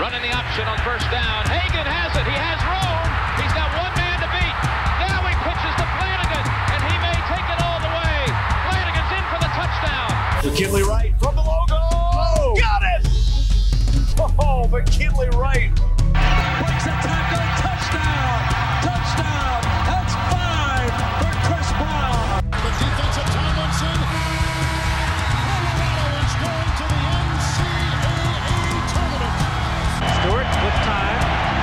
Running the option on first down. Hagan has it. He has room. He's got one man to beat. Now he pitches to Flanagan, and he may take it all the way. Flanagan's in for the touchdown. McKinley Wright from the logo. Oh, got it! Oh, McKinley Wright. Breaks a tackle. Touchdown. Touchdown. That's 5 for Chris Brown. The defensive Tomlinson. Colorado is going to the NCAA tournament. Stewart with time.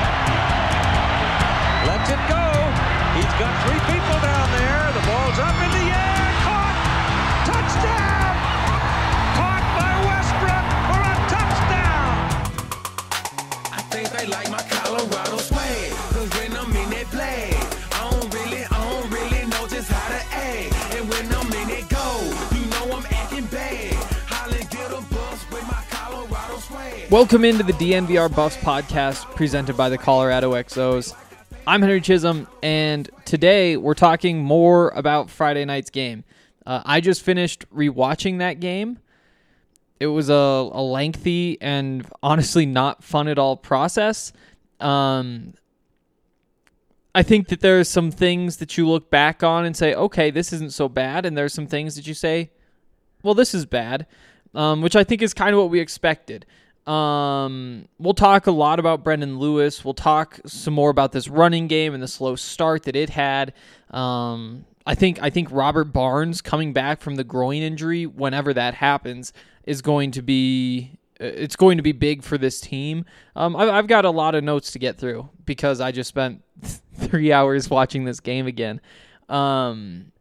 Lets it go. He's got 3 people down there. The ball's up in the air. Caught. Touchdown. Caught by Westbrook for a touchdown. I think they like my Colorado swag. Cause when I'm in that play, I don't really know just how to act. And when I'm in it go, you know I'm acting bad. Holly get a bus with my Colorado swag. Welcome into the DNVR Buffs podcast presented by the Colorado XOs. I'm Henry Chisholm, and today we're talking more about Friday night's game. I just finished rewatching that game. It was a lengthy and honestly not fun at all process. I think that there's some things that you look back on and say, okay, this isn't so bad, and there's some things that you say, well, this is bad, which I think is kind of what we expected. We'll talk a lot about Brendan Lewis. We'll talk some more about this running game and the slow start that it had. I think Robert Barnes coming back from the groin injury, whenever that happens, is going to be big for this team. I've got a lot of notes to get through because I just spent 3 hours watching this game again. And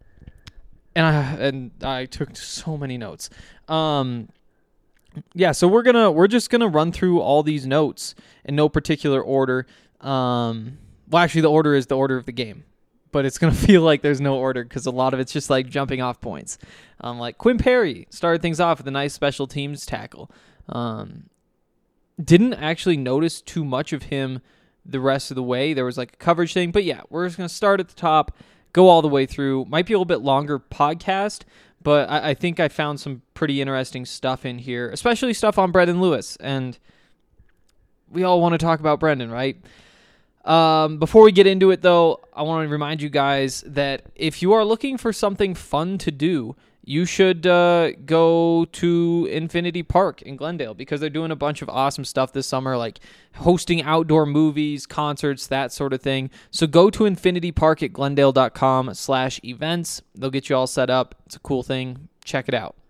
I took so many notes. Yeah, so we're just gonna run through all these notes in no particular order. Well, actually, the order is the order of the game, but it's gonna feel like there's no order because a lot of it's just like jumping off points. Like Quinn Perry started things off with a nice special teams tackle. Didn't actually notice too much of him the rest of the way. There was like a coverage thing, but yeah, we're just gonna start at the top, go all the way through. Might be a little bit longer podcast. But I think I found some pretty interesting stuff in here, especially stuff on Brendan Lewis. And we all want to talk about Brendan, right? Before we get into it, though, I want to remind you guys that if you are looking for something fun to do, you should go to Infinity Park in Glendale because they're doing a bunch of awesome stuff this summer, like hosting outdoor movies, concerts, that sort of thing. So go to Infinity Park at glendale.com/events. They'll get you all set up. It's a cool thing. Check it out.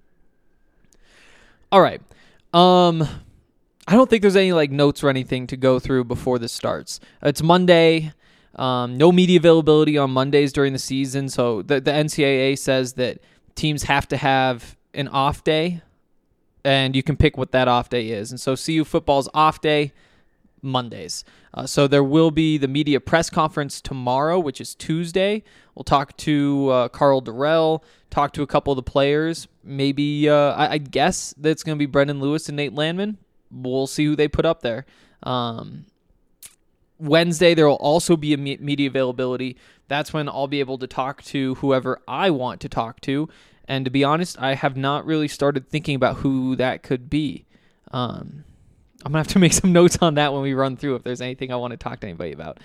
All right. I don't think there's any like notes or anything to go through before this starts. It's Monday. No media availability on Mondays during the season. So the NCAA says that teams have to have an off day, and you can pick what that off day is. And so CU football's off day, Mondays. So there will be the media press conference tomorrow, which is Tuesday. We'll talk to Carl Durrell, talk to a couple of the players. Maybe, I guess that it's going to be Brendan Lewis and Nate Landman. We'll see who they put up there. Wednesday, there will also be a media availability. That's when I'll be able to talk to whoever I want to talk to. And to be honest, I have not really started thinking about who that could be. I'm going to have to make some notes on that when we run through if there's anything I want to talk to anybody about.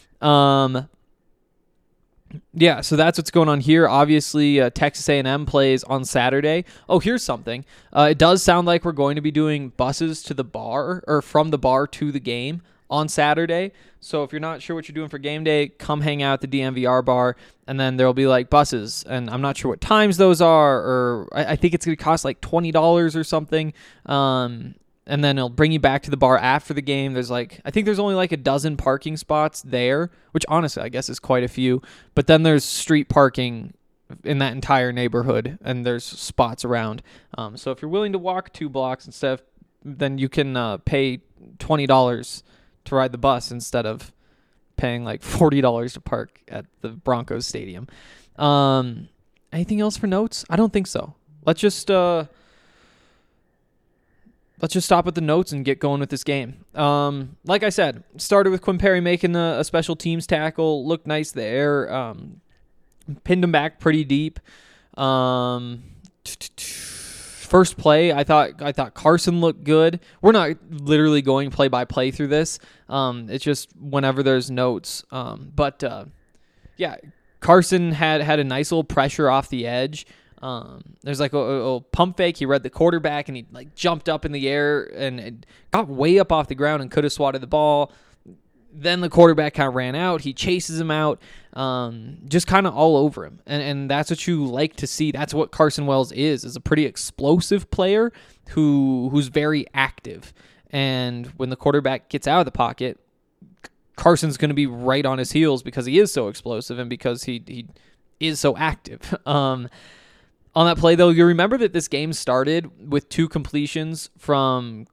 Yeah, so that's what's going on here. Obviously, Texas A&M plays on Saturday. Oh, here's something. It does sound like we're going to be doing buses to the bar, or from the bar to the game on Saturday. So if you're not sure what you're doing for game day, come hang out at the DNVR bar, and then there'll be like buses. And I'm not sure what times those are, or I think it's going to cost like $20 or something. And then it'll bring you back to the bar after the game. I think there's only like a dozen parking spots there, which honestly I guess is quite a few. But then there's street parking in that entire neighborhood, and there's spots around. So if you're willing to walk 2 blocks and stuff, then you can pay $20 to ride the bus instead of paying like $40 to park at the Broncos stadium. Anything else for notes? I don't think so. Let's just stop at the notes and get going with this game. Like I said, started with Quinn Perry making a special teams tackle. Looked nice there. Pinned him back pretty deep. first play, I thought Carson looked good. We're not literally going play by play through this. It's just whenever there's notes. But Carson had a nice little pressure off the edge. There's like a pump fake. He read the quarterback and he like jumped up in the air and got way up off the ground and could have swatted the ball. Then the quarterback kind of ran out. He chases him out, just kind of all over him. And that's what you like to see. That's what Carson Wells is a pretty explosive player who's very active. And when the quarterback gets out of the pocket, Carson's going to be right on his heels because he is so explosive and because he is so active. On that play, though, you remember that this game started with 2 completions from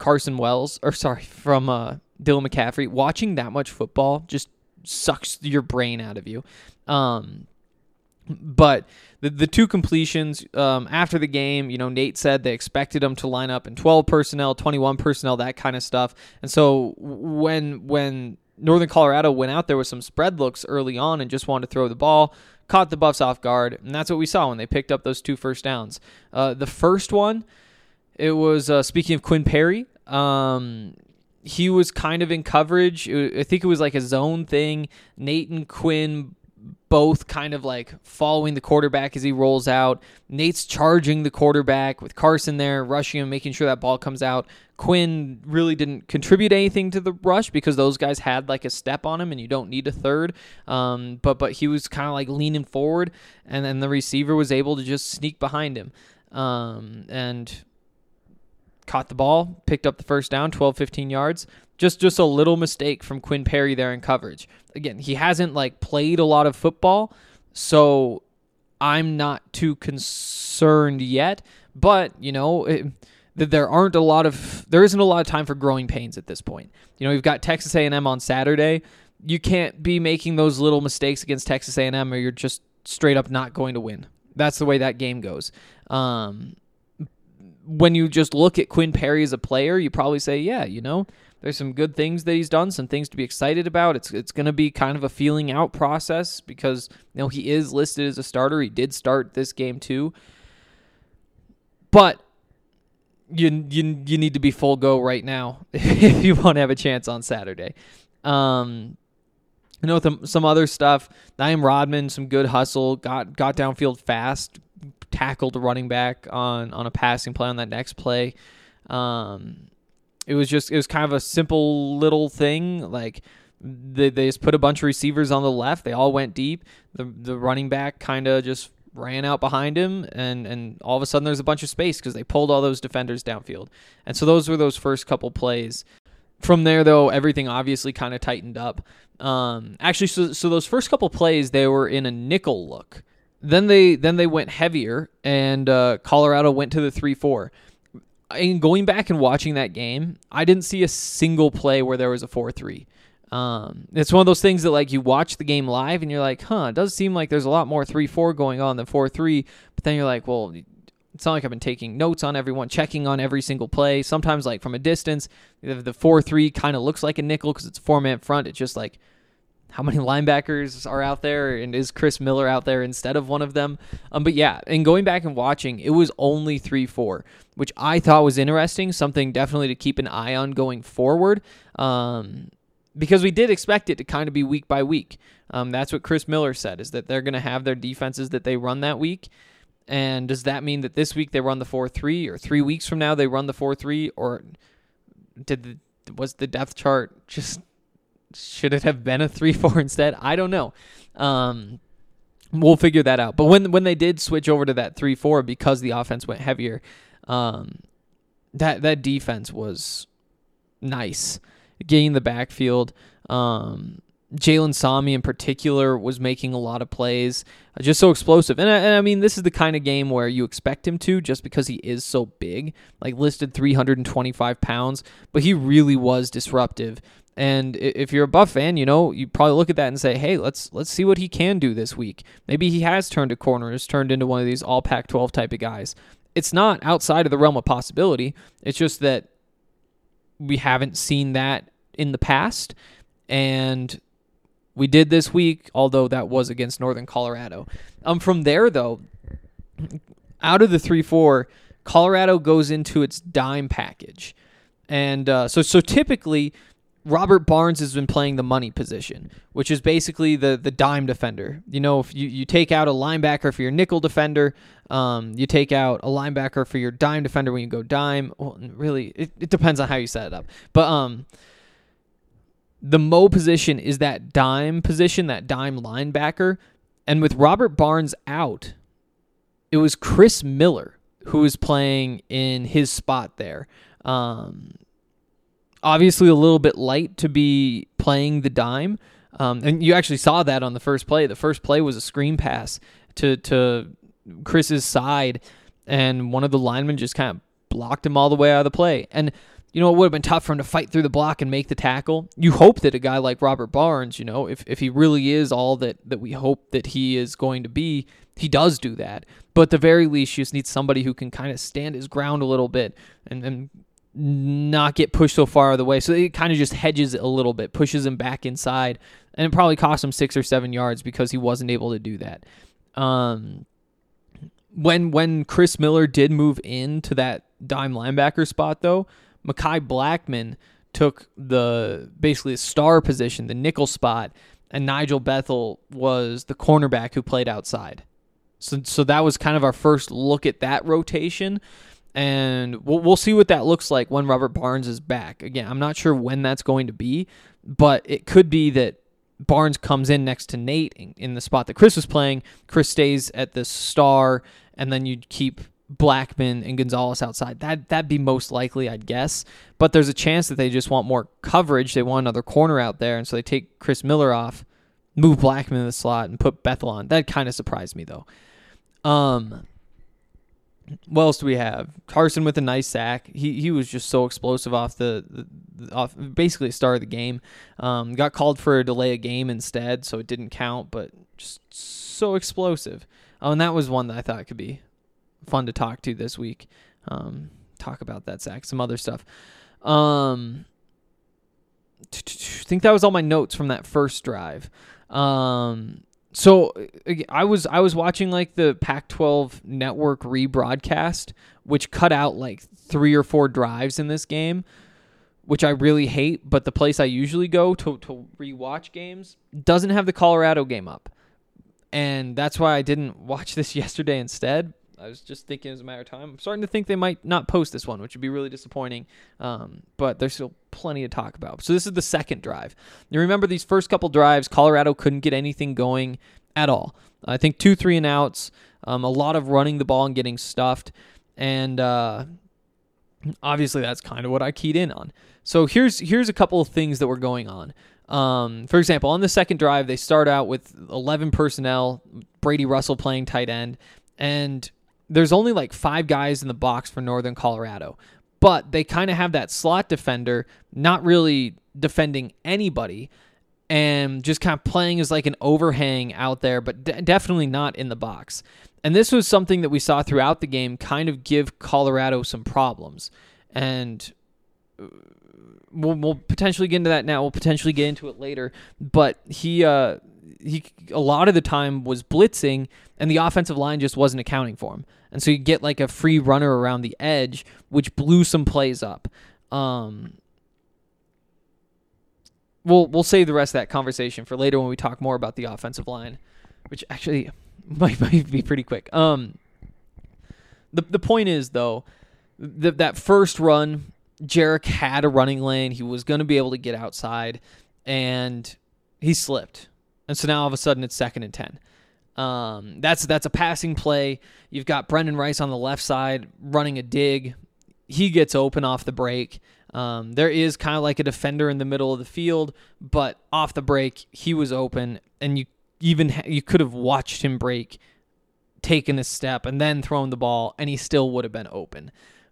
Dylan McCaffrey. Watching that much football just sucks your brain out of you. But the 2 completions after the game, Nate said they expected him to line up in 12 personnel, 21 personnel, that kind of stuff. And so when Northern Colorado went out there with some spread looks early on and just wanted to throw the ball, caught the Buffs off guard, and that's what we saw when they picked up those 2 first downs. The first one, it was, speaking of Quinn Perry, he was kind of in coverage. I think it was like a zone thing. Nate and Quinn both kind of like following the quarterback as he rolls out. Nate's charging the quarterback with Carson there, rushing him, making sure that ball comes out. Quinn really didn't contribute anything to the rush because those guys had like a step on him and you don't need a third. But he was kind of like leaning forward and then the receiver was able to just sneak behind him. And caught the ball, picked up the first down, 12, 15 yards. Just a little mistake from Quinn Perry there in coverage. Again, he hasn't like played a lot of football, so I'm not too concerned yet. But there isn't a lot of time for growing pains at this point. You've got Texas A&M on Saturday. You can't be making those little mistakes against Texas A&M, or you're just straight up not going to win. That's the way that game goes. When you just look at Quinn Perry as a player, you probably say, yeah, there's some good things that he's done, some things to be excited about. It's going to be kind of a feeling out process because he is listed as a starter. He did start this game too. But you need to be full go right now if you want to have a chance on Saturday. Some other stuff, Naeem Rodman, some good hustle, got downfield fast, tackled a running back on a passing play on that next play. It was kind of a simple little thing. Like they just put a bunch of receivers on the left. They all went deep. The running back kind of just ran out behind him, and all of a sudden there's a bunch of space because they pulled all those defenders downfield. And so those were those first couple plays. From there, though, everything obviously kind of tightened up. Actually, so those first couple plays, they were in a nickel look. Then they went heavier, and Colorado went to the 3-4. And going back and watching that game, I didn't see a single play where there was a 4-3. It's one of those things that like you watch the game live and you're like, it does seem like there's a lot more 3-4 going on than 4-3. But then you're like, well, it's not like I've been taking notes on everyone, checking on every single play. Sometimes like from a distance, the 4-3 kind of looks like a nickel because it's a 4-man front. It's just like, how many linebackers are out there, and is Chris Miller out there instead of one of them? But yeah, and going back and watching, it was only 3-4, which I thought was interesting, something definitely to keep an eye on going forward, because we did expect it to kind of be week by week. That's what Chris Miller said, is that they're going to have their defenses that they run that week, and does that mean that this week they run the 4-3, or 3 weeks from now they run the 4-3, or was the depth chart just... should it have been a 3-4 instead? I don't know. We'll figure that out. But when they did switch over to that 3-4 because the offense went heavier, that defense was nice. Getting the backfield. Jalen Sami in particular was making a lot of plays, just so explosive. And I mean, this is the kind of game where you expect him to, just because he is so big, like listed 325 pounds, but he really was disruptive. And if you're a Buff fan, you probably look at that and say, hey, let's see what he can do this week. Maybe he has turned a corner, has turned into one of these all Pac-12 type of guys. It's not outside of the realm of possibility. It's just that we haven't seen that in the past. And we did this week, although that was against Northern Colorado. From there, though, out of the 3-4, Colorado goes into its dime package. And so typically, Robert Barnes has been playing the money position, which is basically the dime defender. If you take out a linebacker for your nickel defender, you take out a linebacker for your dime defender when you go dime. Well, really, it depends on how you set it up. But the Mo position is that dime position, that dime linebacker. And with Robert Barnes out, it was Chris Miller who was playing in his spot there. Obviously a little bit light to be playing the dime. And you actually saw that on the first play. The first play was a screen pass to Chris's side, and one of the linemen just kind of blocked him all the way out of the play. And, it would have been tough for him to fight through the block and make the tackle. You hope that a guy like Robert Barnes, if he really is all that we hope that he is going to be, he does do that. But at the very least, you just need somebody who can kind of stand his ground a little bit and not get pushed so far out of the way. So it kind of just hedges it a little bit, pushes him back inside, and it probably cost him 6 or 7 yards because he wasn't able to do that. When Chris Miller did move into that dime linebacker spot, though, Mekhi Blackman took basically the star position, the nickel spot, and Nigel Bethel was the cornerback who played outside. So that was kind of our first look at that rotation. And we'll see what that looks like when Robert Barnes is back. Again, I'm not sure when that's going to be, but it could be that Barnes comes in next to Nate in the spot that Chris was playing. Chris stays at the star, and then you'd keep Blackman and Gonzalez outside. That'd be most likely, I'd guess. But there's a chance that they just want more coverage. They want another corner out there, and so they take Chris Miller off, move Blackman in the slot, and put Bethel on. That kind of surprised me, though. What else do we have? Carson with a nice sack. He was just so explosive off off basically the start of the game. Got called for a delay of game instead, so it didn't count, but just so explosive. Oh, and that was one that I thought could be fun to talk to this week. Talk about that sack, some other stuff. I think that was all my notes from that first drive. So I was watching like the Pac-12 network rebroadcast, which cut out like 3 or 4 drives in this game, which I really hate. But the place I usually go to rewatch games doesn't have the Colorado game up, and that's why I didn't watch this yesterday instead. I was just thinking it was a matter of time. I'm starting to think they might not post this one, which would be really disappointing. But there's still plenty to talk about. So this is the second drive. You remember these first couple drives, Colorado couldn't get anything going at all. I think 2 3-and-outs, a lot of running the ball and getting stuffed. And obviously that's kind of what I keyed in on. So here's a couple of things that were going on. For example, on the second drive, they start out with 11 personnel, Brady Russell playing tight end, and there's only like 5 guys in the box for Northern Colorado, but they kind of have that slot defender not really defending anybody and just kind of playing as like an overhang out there, but definitely not in the box. And this was something that we saw throughout the game kind of give Colorado some problems. And we'll potentially get into that now. We'll potentially get into it later. But he a lot of the time was blitzing, and the offensive line just wasn't accounting for him. And so you get like a free runner around the edge, which blew some plays up. We'll save the rest of that conversation for later when we talk more about the offensive line, which actually might be pretty quick. The point is, though, that first run, Jarek had a running lane. He was going to be able to get outside, and he slipped. And so now all of a sudden it's 2nd and 10. That's a passing play. You've got Brendan Rice on the left side running a dig. He gets open off the break. There is kind of like a defender in the middle of the field, but off the break he was open, and you could have watched him break, taken a step, and then thrown the ball, and he still would have been open.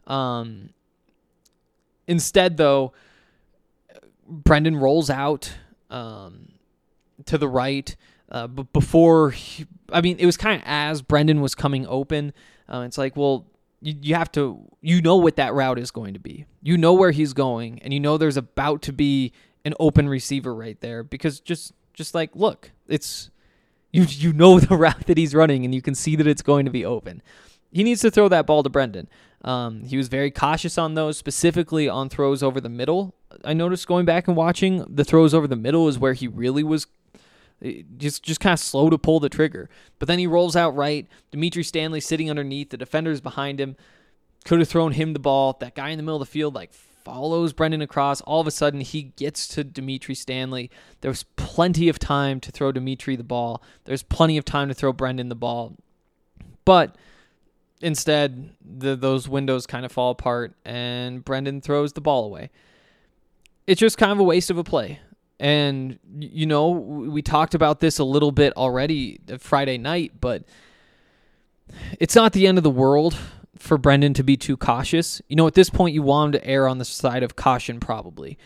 Instead, though, Brendan rolls out to the right. But before, it was kind of as Brendan was coming open. It's like, well, you have to, what that route is going to be. You know where he's going, and you know there's about to be an open receiver right there, because just like, look, it's, you know the route that he's running, and you can see that it's going to be open. he needs to throw that ball to Brendan. He was very cautious on those, specifically on throws over the middle. I noticed going back and watching, the throws over the middle is where he really was just kind of slow to pull the trigger. But then he rolls out right. Dimitri Stanley sitting underneath. The defender's behind him. Could have thrown him the ball. That guy in the middle of the field follows Brendan across. All of a sudden, he gets to Dimitri Stanley. There was plenty of time to throw Dimitri the ball. There's plenty of time to throw Brendan the ball. But instead, those windows kind of fall apart, and Brendan throws the ball away. It's just kind of a waste of a play. And, we talked about this a little bit already Friday night, but it's not the end of the world for Brendan to be too cautious. At this point, you want him to err on the side of caution probably.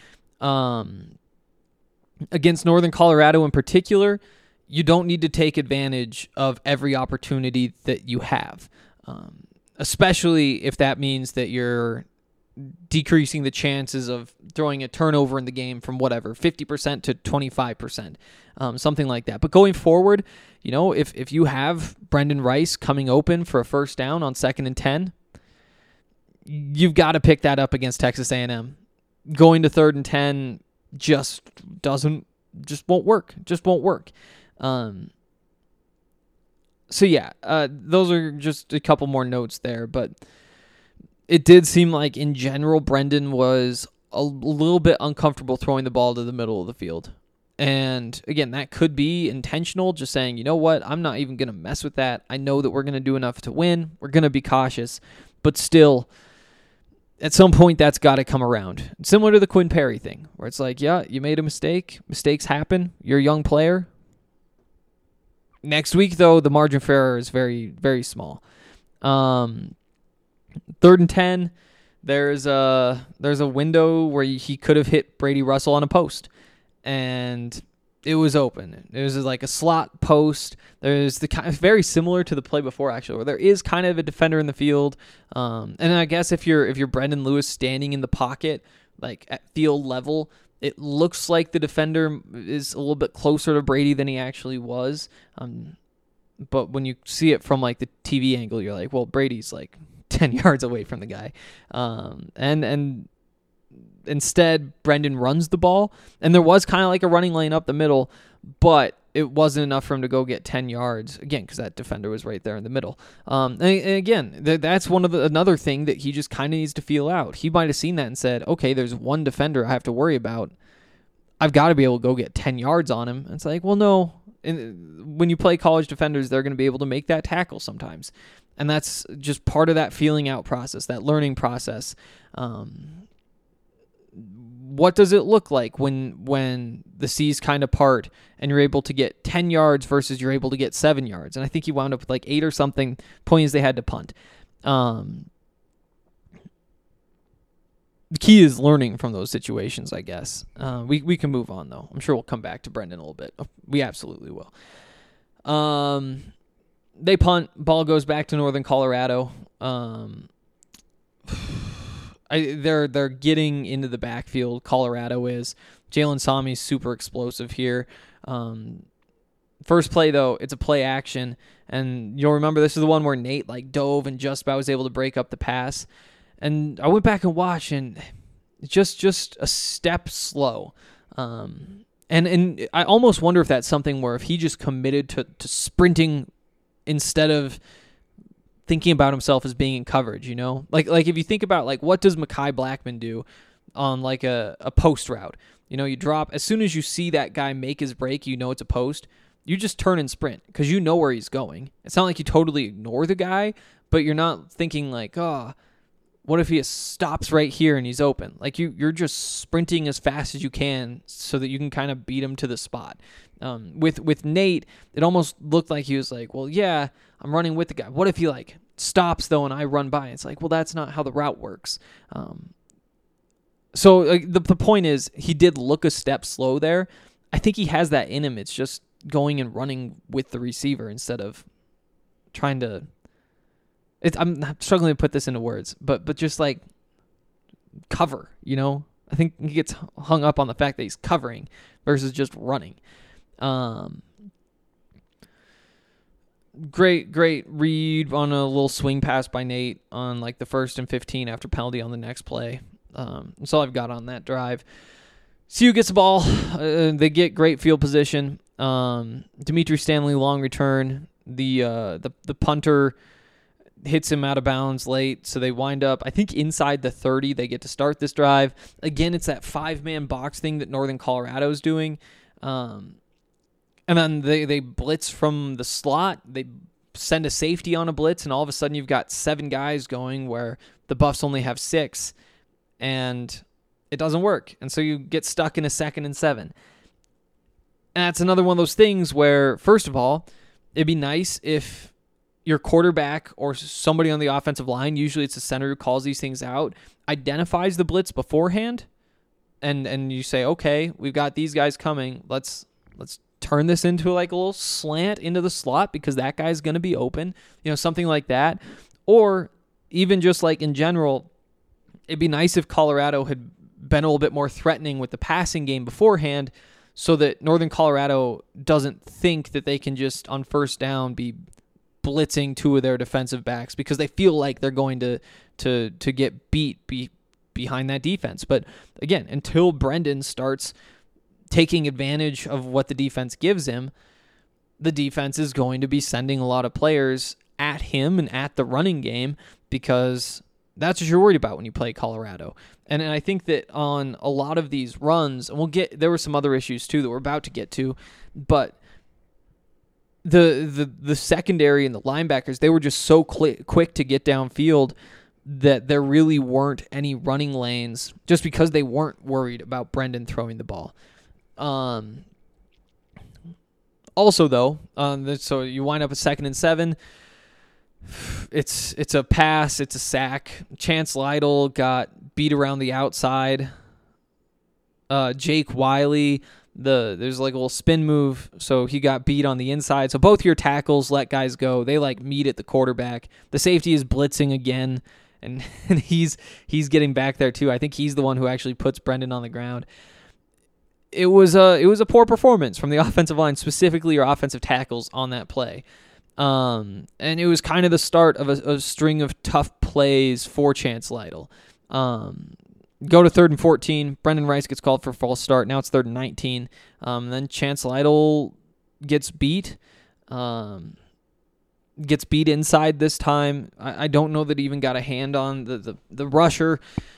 Against Northern Colorado in particular, you don't need to take advantage of every opportunity that you have, especially if that means that you're decreasing the chances of throwing a turnover in the game from 50% to 25%, something like that. But going forward, if you have Brendan Rice coming open for a first down on 2nd and 10, you've got to pick that up against Texas A&M. Going to 3rd and 10 just won't work. So yeah, those are just a couple more notes there, but it did seem like in general Brendan was a little bit uncomfortable throwing the ball to the middle of the field. And again, that could be intentional, just saying, you know what, I'm not even going to mess with that. I know that we're going to do enough to win. We're going to be cautious. But still, at some point, that's got to come around. Similar to the Quinn Perry thing, where it's like, yeah, you made a mistake. Mistakes happen. You're a young player. Next week, though, the margin for error is very, very small. 3rd and 10, there's a window where he could have hit Brady Russell on a post, and it was open. It was like a slot post. There's the kind of very similar to the play before, actually, where there is kind of a defender in the field. And I guess if you're Brendan Lewis standing in the pocket, like at field level, it looks like the defender is a little bit closer to Brady than he actually was. But when you see it from like the TV angle, you're like, well, Brady's like 10 yards away from the guy. And instead, Brendan runs the ball, and there was kind of like a running lane up the middle, but it wasn't enough for him to go get 10 yards, again, because that defender was right there in the middle. And again, that's another thing that he just kind of needs to feel out. He might have seen that and said, okay, there's one defender I have to worry about. I've got to be able to go get 10 yards on him. And it's like, well, no. When you play college defenders, they're going to be able to make that tackle sometimes. And that's just part of that feeling out process, that learning process. What does it look like when the seas kind of part and you're able to get 10 yards versus you're able to get 7 yards? And I think he wound up with like 8 or something. Point is they had to punt. The key is learning from those situations, I guess. We can move on, though. I'm sure we'll come back to Brendan a little bit. We absolutely will. They punt. Ball goes back to Northern Colorado. They're getting into the backfield. Colorado is. Jalen Sami's super explosive here. First play, though, it's a play action. And you'll remember this is the one where Nate dove and just about was able to break up the pass. And I went back and watched, and just a step slow. And I almost wonder if that's something where if he just committed to sprinting instead of thinking about himself as being in coverage, Like if you think about, what does Mekhi Blackman do on, a post route? You drop, as soon as you see that guy make his break, it's a post, you just turn and sprint because you know where he's going. It's not like you totally ignore the guy, but you're not thinking what if he stops right here and he's open? You're just sprinting as fast as you can so that you can kind of beat him to the spot. With Nate, it almost looked like he was like, well, yeah, I'm running with the guy. What if he stops though and I run by? It's like, well, that's not how the route works. So the point is, he did look a step slow there. I think he has that in him. It's just going and running with the receiver instead of trying to. I'm struggling to put this into words, but just cover, I think he gets hung up on the fact that he's covering versus just running. Great read on a little swing pass by Nate on like the 1st and 15 after penalty on the next play. That's all I've got on that drive. CU gets the ball. They get great field position. Dimitri Stanley long return. The punter hits him out of bounds late, so they wind up, I think, inside the 30. They get to start this drive. Again, it's that 5-man box thing that Northern Colorado's doing. And then they blitz from the slot. They send a safety on a blitz, and all of a sudden you've got 7 guys going where the Buffs only have 6, and it doesn't work. And so you get stuck in a 2nd and 7. And that's another one of those things where, first of all, it'd be nice if your quarterback or somebody on the offensive line, usually it's the center who calls these things out, identifies the blitz beforehand, and you say, okay, we've got these guys coming. Let's turn this into like a little slant into the slot because that guy's going to be open, something like that. Or even just like in general, it'd be nice if Colorado had been a little bit more threatening with the passing game beforehand so that Northern Colorado doesn't think that they can just on first down be blitzing 2 of their defensive backs because they feel like they're going to get beat behind that defense. But again, until Brendan starts taking advantage of what the defense gives him, the defense is going to be sending a lot of players at him and at the running game because that's what you're worried about when you play Colorado. And I think that on a lot of these runs, and there were some other issues too that we're about to get to, but the secondary and the linebackers, they were just so quick to get downfield that there really weren't any running lanes just because they weren't worried about Brendan throwing the ball. Also, though, so you wind up at 2nd and 7. It's a pass. It's a sack. Chance Lytle got beat around the outside. Jake Wiley, there's like a little spin move, so he got beat on the inside. So both your tackles let guys go. They like meet at the quarterback. The safety is blitzing again, and he's getting back there too. I think he's the one who actually puts Brendan on the ground. It was a poor performance from the offensive line, specifically your offensive tackles on that play. And it was kind of the start of a string of tough plays for Chance Lytle. Go to 3rd and 14. Brendan Rice gets called for a false start. Now it's 3rd and 19. Then Chance Lytle gets beat. Gets beat inside this time. I don't know that he even got a hand on the rusher.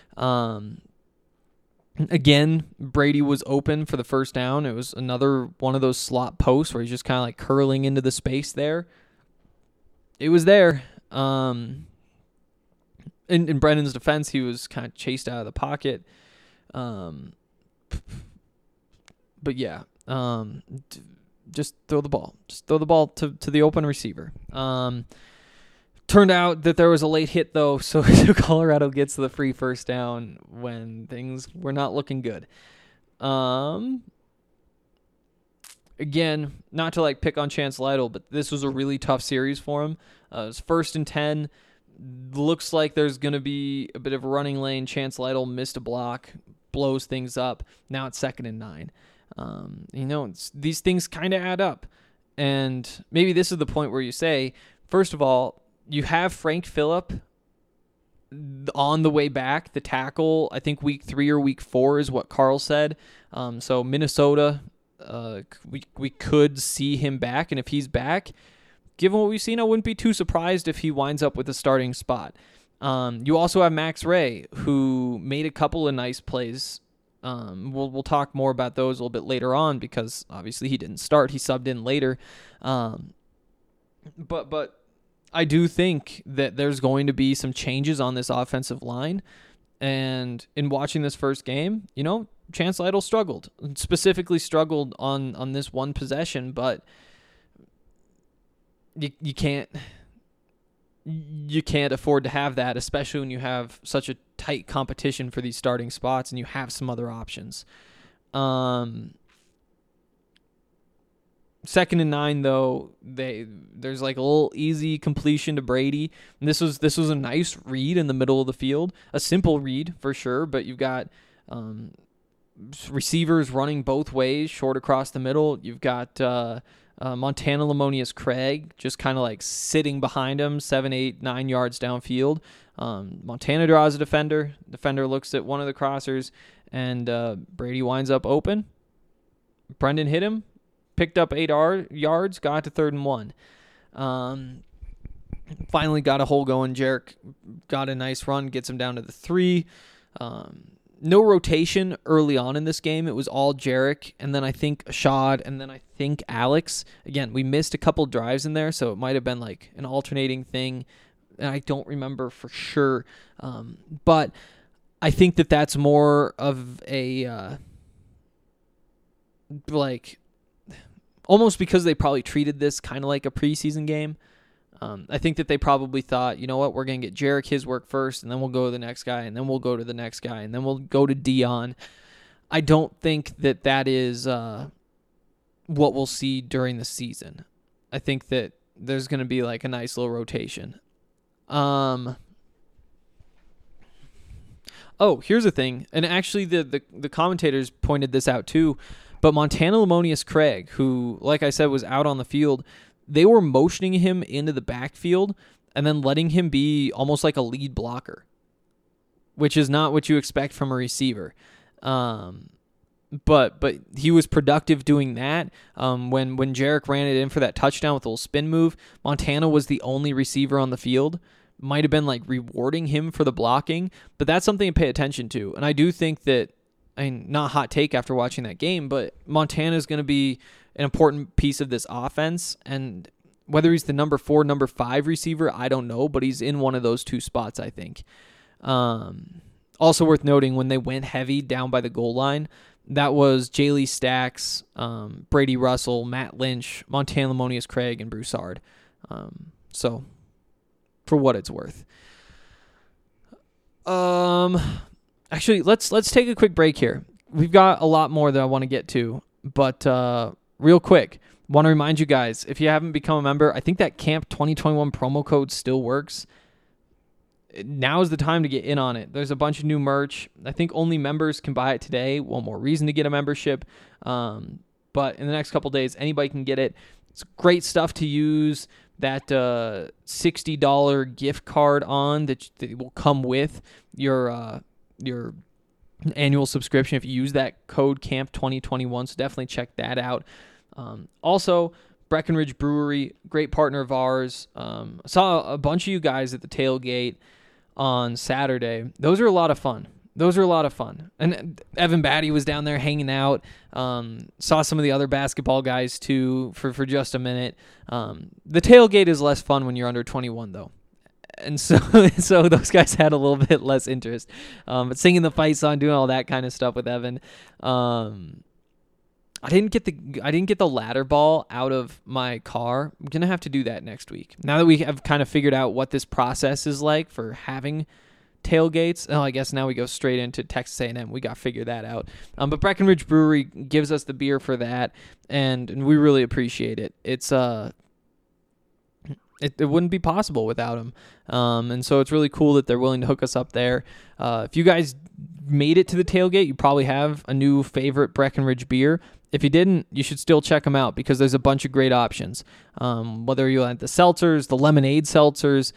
Again, Brady was open for the first down. It was another one of those slot posts where he's just kind of like curling into the space there. It was there. In Brendan's defense, he was kind of chased out of the pocket. But yeah, just throw the ball. Just throw the ball to the open receiver. Turned out that there was a late hit, though, so Colorado gets the free first down when things were not looking good. Again, not to like pick on Chance Lytle, but this was a really tough series for him. It was 1st and 10. Looks like there's going to be a bit of a running lane. Chance Lytle missed a block, blows things up. Now it's 2nd and 9. These things kind of add up. And maybe this is the point where you say, first of all, you have Frank Phillip on the way back. The tackle, I think week 3 or week 4 is what Carl said. So Minnesota, we could see him back. And if he's back, given what we've seen, I wouldn't be too surprised if he winds up with a starting spot. You also have Max Ray, who made a couple of nice plays. We'll talk more about those a little bit later on because obviously he didn't start. He subbed in later. But I do think that there's going to be some changes on this offensive line. And in watching this first game, Chance Lytle struggled. Specifically struggled on this one possession, but you can't afford to have that, especially when you have such a tight competition for these starting spots and you have some other options. 2nd and 9, though, there's like a little easy completion to Brady. And this was a nice read in the middle of the field, a simple read for sure, but you've got receivers running both ways, short across the middle. You've got Montana Lemonius Craig just kind of like sitting behind him 7, 8, 9 yards downfield. Montana draws a defender. Defender looks at one of the crossers, and Brady winds up open. Brendan hit him, picked up 8 yards, got to 3rd and 1. Finally got a hole going. Jarek got a nice run, gets him down to the 3. No rotation early on in this game. It was all Jarek, and then I think Ashad, and then I think Alex. Again, we missed a couple drives in there, so it might have been like an alternating thing, and I don't remember for sure. But I think that that's more of a like almost because they probably treated this kind of like a preseason game. I think that they probably thought, you know what, we're going to get Jarek his work first, and then we'll go to the next guy, and then we'll go to the next guy, and then we'll go to Dion. I don't think that that is what we'll see during the season. I think that there's going to be like a nice little rotation. Oh, here's the thing, and actually the commentators pointed this out too, but Montana Lemonius Craig, who, like I said, was out on the field, they were motioning him into the backfield and then letting him be almost like a lead blocker, which is not what you expect from a receiver. But he was productive doing that. When Jarek ran it in for that touchdown with a little spin move, Montana was the only receiver on the field. Might have been like rewarding him for the blocking, but that's something to pay attention to. And I do think that, I mean, not hot take after watching that game, but Montana is going to be an important piece of this offense, and whether he's the number 4, number 5 receiver, I don't know, but he's in one of those two spots, I think. Also worth noting, when they went heavy down by the goal line, that was Jaylee Stacks, Brady Russell, Matt Lynch, Montana Lemonius Craig, and Broussard. So, for what it's worth. Actually, let's take a quick break here. We've got a lot more that I want to get to, but real quick, want to remind you guys, if you haven't become a member, I think that Camp 2021 promo code still works. Now is the time to get in on it. There's a bunch of new merch. I think only members can buy it today. One more reason to get a membership. But in the next couple days, anybody can get it. It's great stuff to use that $60 gift card on that will come with your annual subscription if you use that code Camp 2021. So definitely check that out. Also, Breckenridge Brewery, great partner of ours. Saw a bunch of you guys at the tailgate on Saturday. Those are a lot of fun. And Evan Batty was down there hanging out. Saw some of the other basketball guys too for just a minute. The tailgate is less fun when you're under 21 though. And so those guys had a little bit less interest. But singing the fight song, doing all that kind of stuff with Evan. I didn't get the ladder ball out of my car. I'm gonna have to do that next week. Now that we have kind of figured out what this process is like for having tailgates. Oh, I guess now we go straight into Texas A&M. We got to figure that out. But Breckenridge Brewery gives us the beer for that, and we really appreciate it. It's it wouldn't be possible without them. And so it's really cool that they're willing to hook us up there. If you guys made it to the tailgate, you probably have a new favorite Breckenridge beer. If you didn't, you should still check them out because there's a bunch of great options. Whether you like the seltzers, the lemonade seltzers,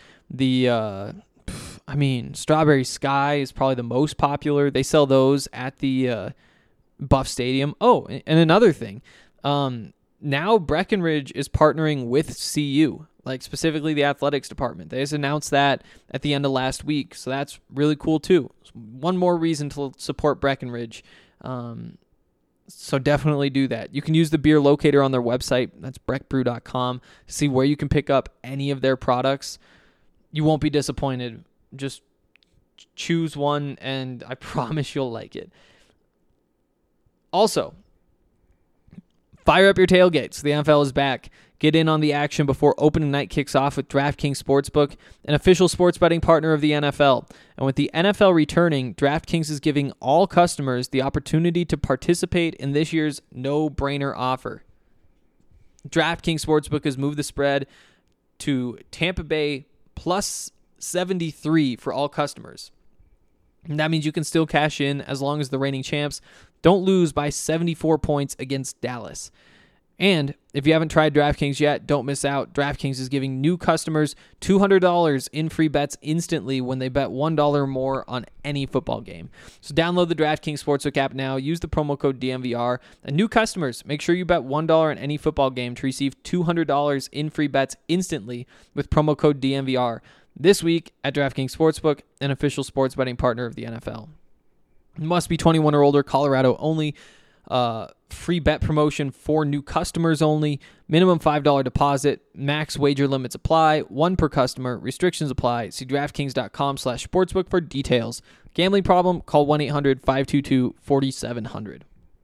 Strawberry Sky is probably the most popular. They sell those at the Buff Stadium. Oh, and another thing. Now Breckenridge is partnering with CU, like specifically the athletics department. They just announced that at the end of last week, so that's really cool too. One more reason to support Breckenridge. So definitely do that. You can use the beer locator on their website. That's breckbrew.com to see where you can pick up any of their products. You won't be disappointed. Just choose one, and I promise you'll like it. Also, fire up your tailgates. The NFL is back. Get in on the action before opening night kicks off with DraftKings Sportsbook, an official sports betting partner of the NFL. And with the NFL returning, DraftKings is giving all customers the opportunity to participate in this year's no-brainer offer. DraftKings Sportsbook has moved the spread to Tampa Bay plus 73 for all customers. And that means you can still cash in as long as the reigning champs don't lose by 74 points against Dallas. And if you haven't tried DraftKings yet, don't miss out. DraftKings is giving new customers $200 in free bets instantly when they bet $1 or more on any football game. So download the DraftKings Sportsbook app now. Use the promo code DMVR. And new customers, make sure you bet $1 on any football game to receive $200 in free bets instantly with promo code DMVR this week at DraftKings Sportsbook, an official sports betting partner of the NFL. Must be 21 or older, Colorado only. Free bet promotion for new customers only. Minimum $5 deposit. Max wager limits apply. One per customer. Restrictions apply. See DraftKings.com/sportsbook for details. Gambling problem? Call 1-800-522-4700.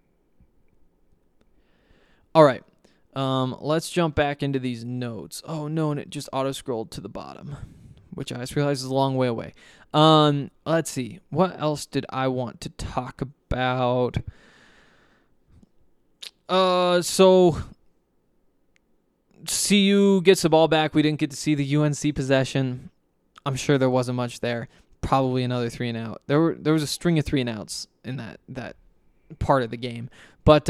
All right. Let's jump back into these notes. Oh, no, and it just auto-scrolled to the bottom, which I just realized is a long way away. Let's see. What else did I want to talk about? So CU gets the ball back. We didn't get to see the UNC possession. I'm sure there wasn't much there. Probably another 3-and-out. There was a string of 3-and-outs in that part of the game. But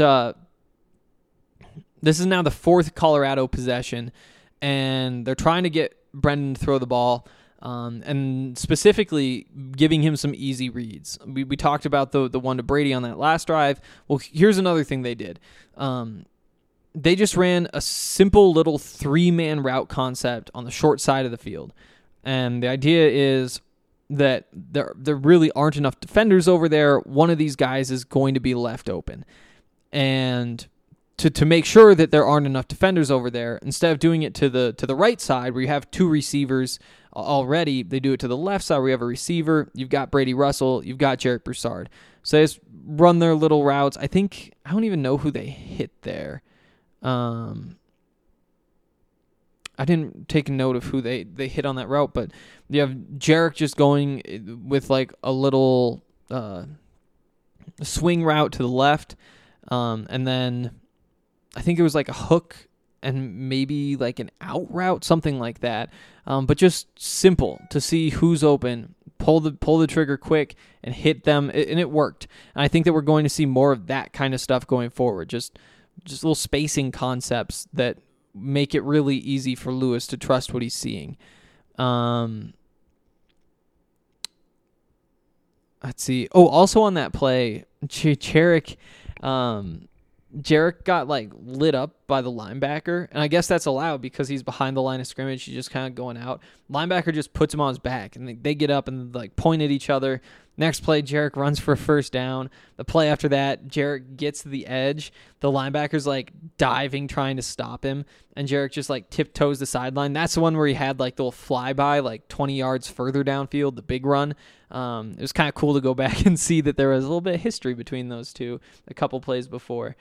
this is now the fourth Colorado possession, and they're trying to get Brendan to throw the ball. And specifically giving him some easy reads. We talked about the one to Brady on that last drive. Well, here's another thing they did. They just ran a simple little 3-man route concept on the short side of the field. And the idea is that there really aren't enough defenders over there. One of these guys is going to be left open. And to make sure that there aren't enough defenders over there, instead of doing it to the right side where you have two receivers already, they do it to the left side where you have a receiver. You've got Brady Russell. You've got Jarek Broussard. So they just run their little routes. I don't even know who they hit there. I didn't take a note of who they hit on that route, but you have Jarek just going with like a little swing route to the left, and then I think it was like a hook and maybe like an out route, something like that. But just simple to see who's open, pull the trigger quick and hit them, and it worked. And I think that we're going to see more of that kind of stuff going forward. Just little spacing concepts that make it really easy for Lewis to trust what he's seeing. Let's see. Oh, also on that play, Jarek got like lit up by the linebacker, and I guess that's allowed because he's behind the line of scrimmage. He's just kind of going out. Linebacker just puts him on his back, and they get up and like point at each other. Next play, Jarek runs for a first down. The play after that, Jarek gets to the edge. The linebacker's like diving, trying to stop him, and Jarek just like tiptoes the sideline. That's the one where he had like the little flyby like 20 yards further downfield, the big run. It was kind of cool to go back and see that there was a little bit of history between those two a couple plays before.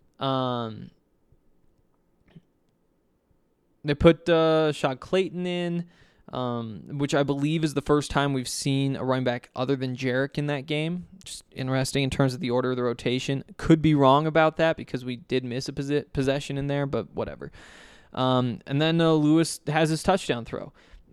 They put Shad Clayton in, which I believe is the first time we've seen a running back other than Jarek in that game. Just interesting in terms of the order of the rotation. Could be wrong about that because we did miss a possession in there, but whatever. And then Lewis has his touchdown throw.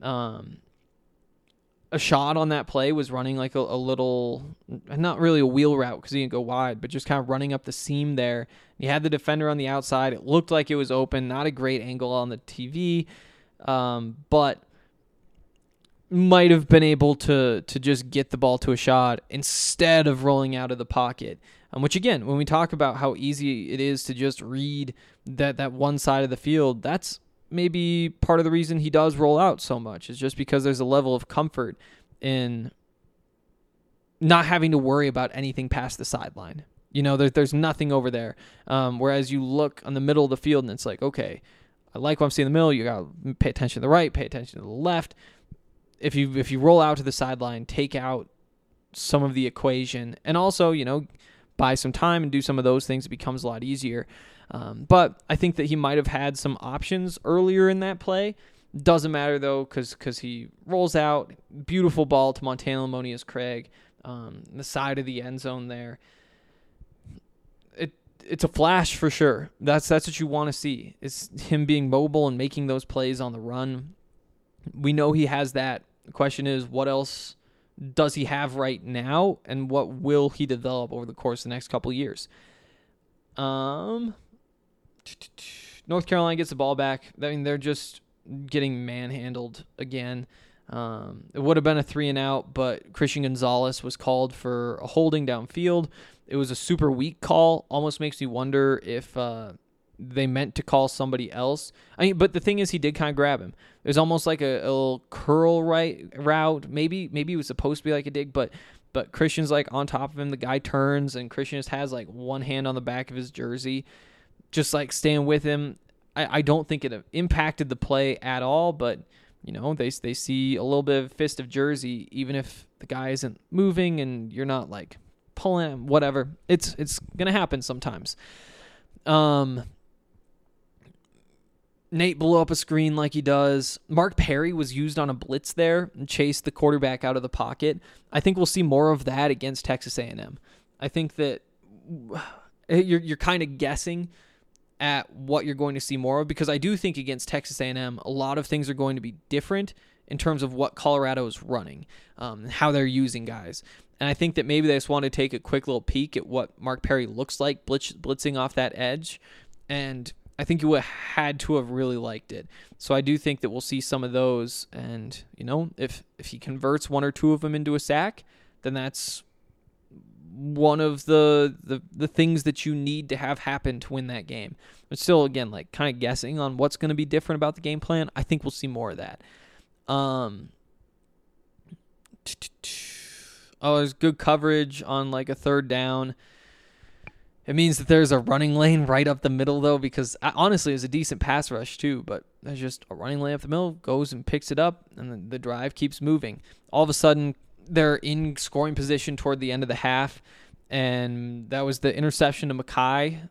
A shot on that play was running like a little, not really a wheel route because he didn't go wide, but just kind of running up the seam there. He had the defender on the outside. It looked like it was open. Not a great angle on the TV, but might have been able to just get the ball to a shot instead of rolling out of the pocket. Which, again, when we talk about how easy it is to just read that one side of the field, that's maybe part of the reason he does roll out so much is just because there's a level of comfort in not having to worry about anything past the sideline. You know, there's nothing over there. Whereas you look on the middle of the field and it's like, okay, I like what I'm seeing in the middle. You got to pay attention to the right, pay attention to the left. If you roll out to the sideline, take out some of the equation and also, you know, buy some time and do some of those things, it becomes a lot easier. But I think that he might have had some options earlier in that play. Doesn't matter, though, because he rolls out. Beautiful ball to Montana Lamonius Craig, the side of the end zone there. It's a flash for sure. That's what you want to see, is him being mobile and making those plays on the run. We know he has that. The question is, what else does he have right now, and what will he develop over the course of the next couple of years? North Carolina gets the ball back. I mean, they're just getting manhandled again. It would have been a 3-and-out, but Christian Gonzalez was called for a holding downfield. It was a super weak call. Almost makes me wonder if they meant to call somebody else. I mean, but the thing is, he did kind of grab him. It was almost like a little curl route. Maybe it was supposed to be like a dig, but Christian's like on top of him. The guy turns, and Christian just has like one hand on the back of his jersey, just like staying with him. I don't think it impacted the play at all, but they see a little bit of fist of jersey, even if the guy isn't moving and you're not like pulling him, whatever. It's gonna happen sometimes. Nate blew up a screen like he does. Mark Perry was used on a blitz there and chased the quarterback out of the pocket. I think we'll see more of that against Texas A&M. I think that you're kind of guessing at what you're going to see more of, because I do think against Texas A&M, a lot of things are going to be different in terms of what Colorado is running, how they're using guys. And I think that maybe they just want to take a quick little peek at what Mark Perry looks like blitzing off that edge, and I think you would have had to have really liked it. So I do think that we'll see some of those, and if he converts one or two of them into a sack, then that's one of the things that you need to have happen to win that game. But still, again, like kind of guessing on what's going to be different about the game plan. I think we'll see more of that. There's good coverage on like a third down. It means that there's a running lane right up the middle, though, because honestly, it's a decent pass rush, too. But there's just a running lane up the middle, goes and picks it up, and then the drive keeps moving. All of a sudden, they're in scoring position toward the end of the half, and that was the interception to Mekhi.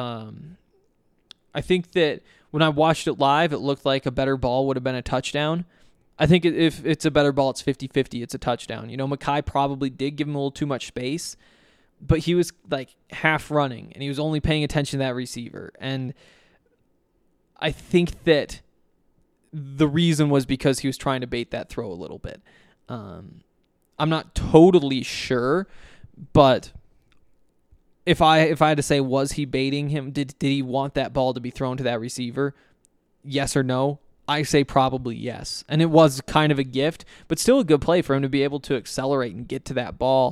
I think that when I watched it live, it looked like a better ball would have been a touchdown. I think if it's a better ball, it's 50-50, it's a touchdown. Mekhi probably did give him a little too much space, but he was like half running, and he was only paying attention to that receiver. And I think that the reason was because he was trying to bait that throw a little bit. I'm not totally sure, but if I had to say, was he baiting him? Did he want that ball to be thrown to that receiver? Yes or no? I say probably yes. And it was kind of a gift, but still a good play for him to be able to accelerate and get to that ball.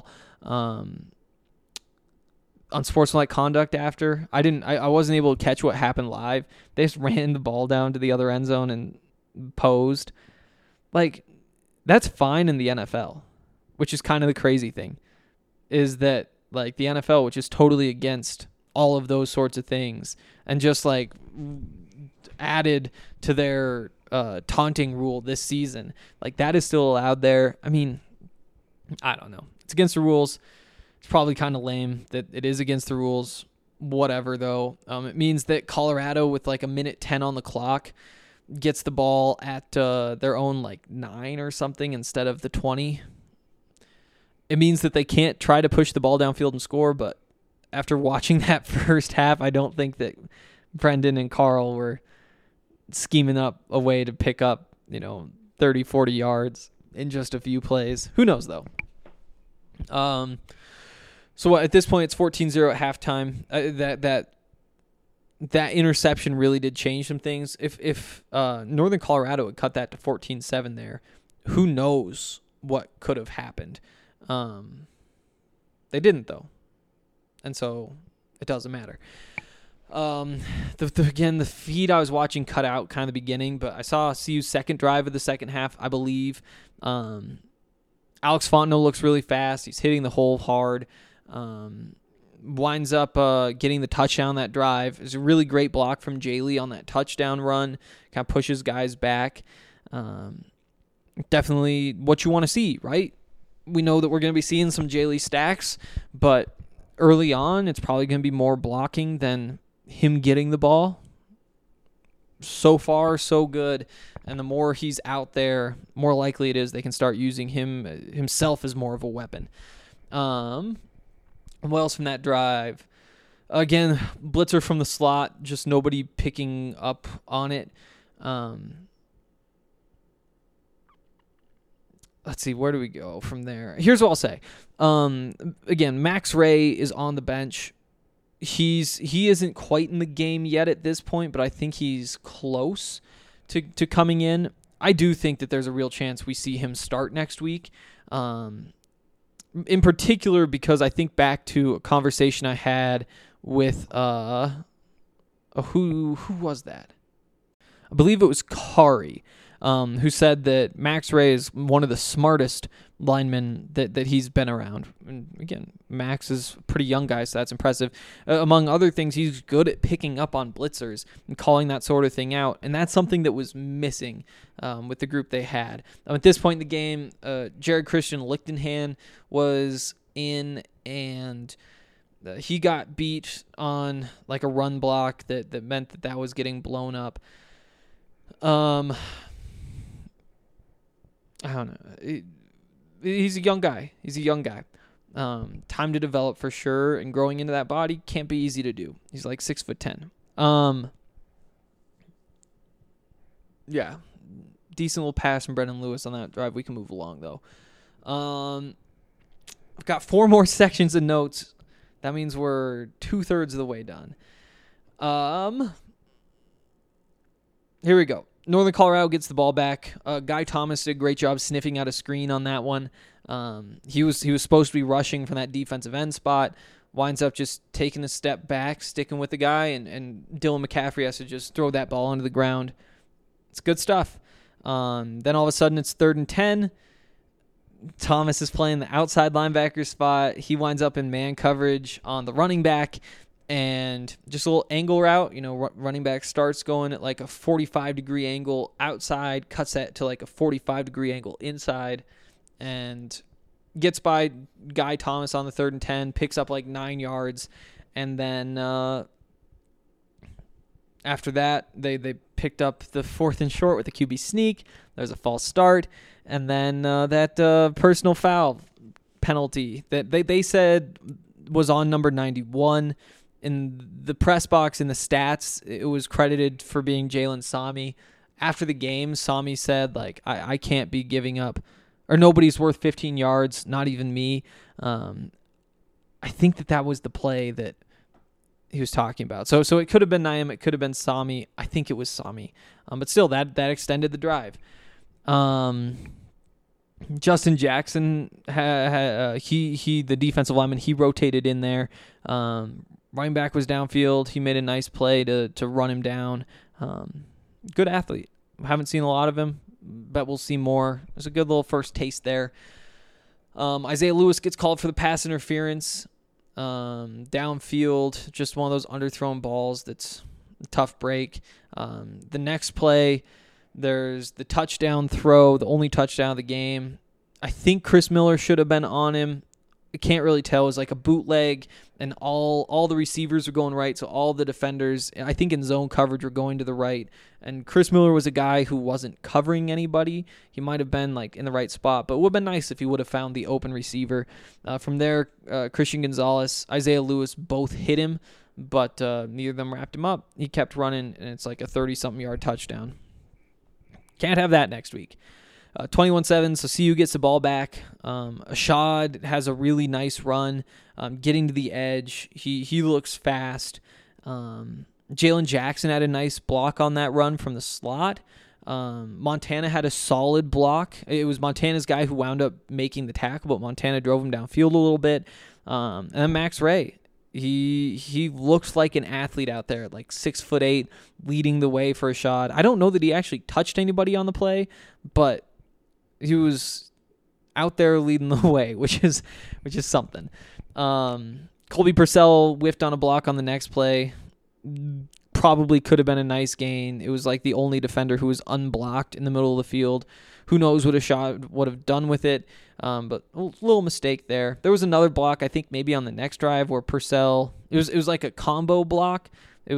Unsportsmanlike conduct after. I wasn't able to catch what happened live. They just ran the ball down to the other end zone and posed. Like, that's fine in the NFL, which is kind of the crazy thing, is that like the NFL, which is totally against all of those sorts of things, and just like added to their taunting rule this season, like that is still allowed there. I mean, I don't know. It's against the rules. It's probably kind of lame that it is against the rules. Whatever, though. It means that Colorado, with like a minute 10 on the clock, gets the ball at their own like 9 or something instead of the 20. It means that they can't try to push the ball downfield and score, but after watching that first half, I don't think that Brendan and Carl were scheming up a way to pick up, 30, 40 yards in just a few plays. Who knows, though? So at this point, it's 14-0 at halftime. That interception really did change some things. If Northern Colorado had cut that to 14-7 there, who knows what could have happened. They didn't, though. And so it doesn't matter. Again, the feed I was watching cut out kind of the beginning, but I saw CU's second drive of the second half, I believe. Alex Fontenot looks really fast. He's hitting the hole hard. Winds up getting the touchdown that drive. It's a really great block from Jaylee on that touchdown run. Kind of pushes guys back. Definitely what you want to see, right? We know that we're going to be seeing some Jaylee stacks, but early on, it's probably going to be more blocking than him getting the ball. So far, so good. And the more he's out there, more likely it is they can start using himself as more of a weapon. What else from that drive? Again, blitzer from the slot, just nobody picking up on it. Let's see, where do we go from there? Here's what I'll say. Again, Max Ray is on the bench. he isn't quite in the game yet at this point, but I think he's close to coming in. I do think that there's a real chance we see him start next week. In particular, because I think back to a conversation I had with who was that? I believe it was Kari, who said that Max Ray is one of the smartest linemen that he's been around. And again, Max is a pretty young guy, so that's impressive. Among other things, he's good at picking up on blitzers and calling that sort of thing out, and that's something that was missing with the group they had. At this point in the game, Jared Christian Lichtenhan was in, and he got beat on like a run block that meant that was getting blown up. I don't know. He's a young guy. Time to develop for sure, and growing into that body can't be easy to do. He's like 6'10". Yeah, decent little pass from Brendan Lewis on that drive. We can move along though. I've got 4 more sections of notes. That means we're 2/3 of the way done. Here we go. Northern Colorado gets the ball back. Guy Thomas did a great job sniffing out a screen on that one. He was supposed to be rushing from that defensive end spot. Winds up just taking a step back, sticking with the guy, and Dylan McCaffrey has to just throw that ball onto the ground. It's good stuff. Then all of a sudden it's 3rd and 10. Thomas is playing the outside linebacker spot. He winds up in man coverage on the running back. And just a little angle route, running back starts going at like a 45-degree angle outside, cuts that to like a 45-degree angle inside, and gets by Guy Thomas on the 3rd and 10, picks up like 9 yards, and then after that, they picked up the 4th and short with a QB sneak. There's a false start, and then that personal foul penalty that they said was on number 91. In the press box, in the stats, it was credited for being Jalen Sami. After the game, Sami said, like, I can't be giving up, or nobody's worth 15 yards, not even me. I think that was the play that he was talking about. So it could have been Naim, it could have been Sami. I think it was Sami. But still, that extended the drive. Justin Jackson, he the defensive lineman, he rotated in there. Running back was downfield. He made a nice play to run him down. Good athlete. Haven't seen a lot of him. Bet we'll see more. There's a good little first taste there. Isaiah Lewis gets called for the pass interference. Downfield, just one of those underthrown balls that's a tough break. The next play, there's the touchdown throw, the only touchdown of the game. I think Chris Miller should have been on him. I can't really tell. It was like a bootleg, and all the receivers were going right, so all the defenders, I think in zone coverage, were going to the right. And Chris Miller was a guy who wasn't covering anybody. He might have been like in the right spot, but it would have been nice if he would have found the open receiver. From there, Christian Gonzalez, Isaiah Lewis both hit him, but neither of them wrapped him up. He kept running, and it's like a 30-something yard touchdown. Can't have that next week. 21-7, so CU gets the ball back. Ashad has a really nice run, getting to the edge. He looks fast. Jalen Jackson had a nice block on that run from the slot. Montana had a solid block. It was Montana's guy who wound up making the tackle, but Montana drove him downfield a little bit. And then Max Ray. He looks like an athlete out there, like 6'8", leading the way for Ashad. I don't know that he actually touched anybody on the play, but he was out there leading the way, which is something. Colby Purcell whiffed on a block on the next play. Probably could have been a nice gain. It was like the only defender who was unblocked in the middle of the field. Who knows what Ashad would have done with it, but a little mistake there. There was another block, I think maybe on the next drive, where Purcell, it was like a combo block. It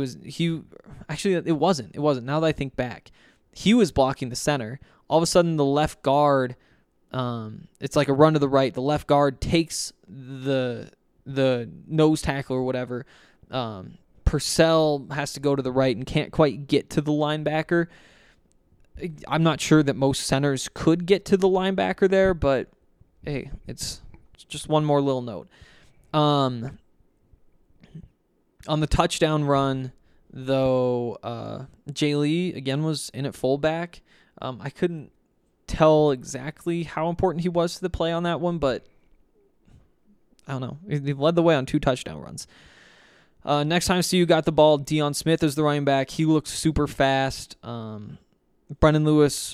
wasn't. Now that I think back, he was blocking the center. All of a sudden, the left guard, it's like a run to the right. The left guard takes the nose tackle or whatever. Purcell has to go to the right and can't quite get to the linebacker. I'm not sure that most centers could get to the linebacker there, but hey, it's just one more little note. On the touchdown run, though, Jay Lee, again, was in at fullback. I couldn't tell exactly how important he was to the play on that one, but I don't know. He led the way on 2 touchdown runs. Next time CU got the ball, Deion Smith is the running back. He looked super fast. Brendan Lewis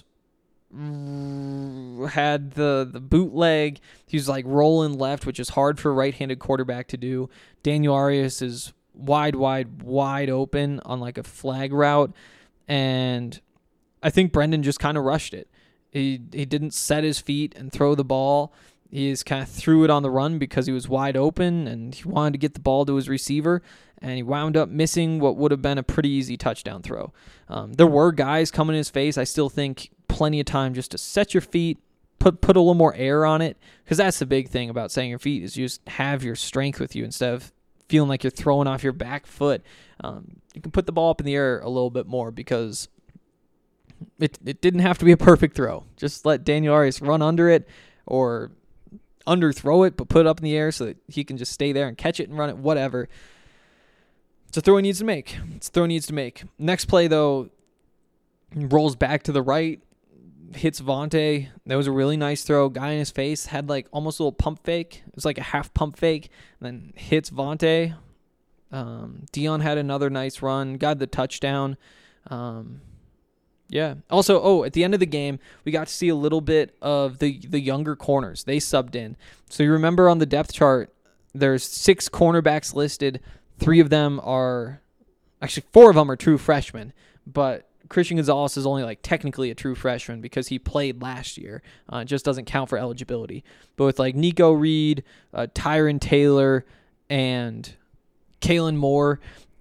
had the bootleg. He was like rolling left, which is hard for a right-handed quarterback to do. Daniel Arias is wide open on like a flag route, and I think Brendan just kind of rushed it. He didn't set his feet and throw the ball. He just kind of threw it on the run because he was wide open and he wanted to get the ball to his receiver, and he wound up missing what would have been a pretty easy touchdown throw. There were guys coming in his face. I still think plenty of time just to set your feet, put a little more air on it, because that's the big thing about setting your feet is you just have your strength with you instead of feeling like you're throwing off your back foot. You can put the ball up in the air a little bit more because it didn't have to be a perfect throw. Just let Daniel Arias run under it or underthrow it, but put it up in the air so that he can just stay there and catch it and run it, whatever. It's a throw he needs to make. Next play, though, rolls back to the right, hits Vontae. That was a really nice throw. Guy in his face had like almost a little pump fake. It was like a half pump fake, and then hits Vontae. Deion had another nice run, got the touchdown. Yeah. Also, at the end of the game, we got to see a little bit of the younger corners. They subbed in. So you remember on the depth chart, there's 6 cornerbacks listed. 4 of them are true freshmen, but Christian Gonzalez is only like technically a true freshman because he played last year. It just doesn't count for eligibility. But with like Nico Reed, Tyron Taylor, and Kalen Moore,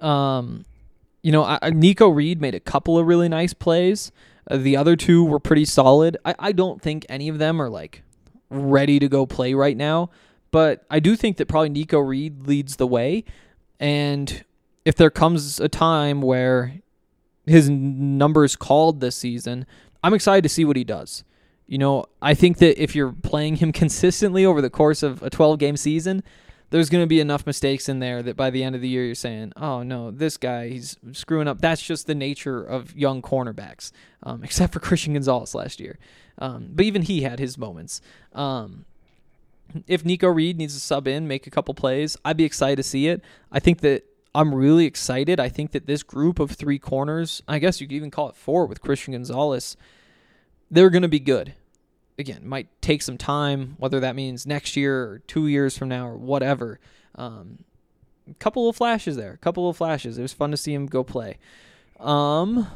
Nico Reed made a couple of really nice plays. The other 2 were pretty solid. I don't think any of them are like ready to go play right now, but I do think that probably Nico Reed leads the way. And if there comes a time where his numbers called this season, I'm excited to see what he does. I think that if you're playing him consistently over the course of a 12-game season, there's going to be enough mistakes in there that by the end of the year you're saying, oh, no, this guy, he's screwing up. That's just the nature of young cornerbacks, except for Christian Gonzalez last year. But even he had his moments. If Nico Reed needs to sub in, make a couple plays, I'd be excited to see it. I think that I'm really excited. I think that this group of 3 corners, I guess you could even call it 4 with Christian Gonzalez, they're going to be good. Again, might take some time, whether that means next year or 2 years from now or whatever. A couple of flashes there. It was fun to see him go play. Let's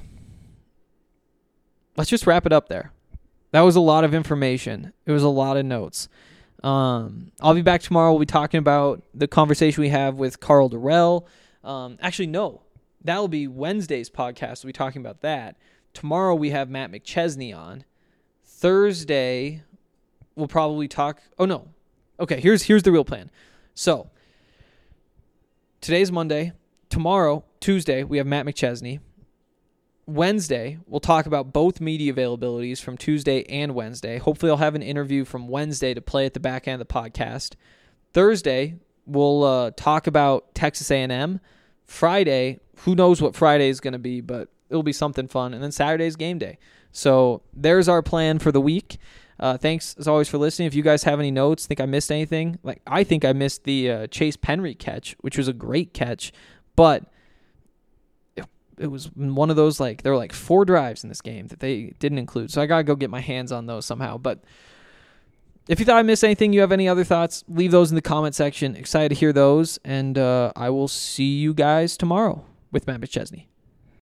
just wrap it up there. That was a lot of information. It was a lot of notes. I'll be back tomorrow. We'll be talking about the conversation we have with Carl Durrell. Actually, no. That'll be Wednesday's podcast. We'll be talking about that. Tomorrow we have Matt McChesney on. Thursday, we'll probably talk... Oh, no. Okay, here's the real plan. So, today's Monday. Tomorrow, Tuesday, we have Matt McChesney. Wednesday, we'll talk about both media availabilities from Tuesday and Wednesday. Hopefully, I'll have an interview from Wednesday to play at the back end of the podcast. Thursday, we'll talk about Texas A&M. Friday, who knows what Friday is going to be, but it'll be something fun. And then Saturday's game day. So there's our plan for the week. Thanks, as always, for listening. If you guys have any notes, think I missed anything, I think I missed the Chase Penry catch, which was a great catch, but it was one of those, there were 4 drives in this game that they didn't include. So I got to go get my hands on those somehow. But if you thought I missed anything, you have any other thoughts, leave those in the comment section. Excited to hear those. And I will see you guys tomorrow with Matt McChesney.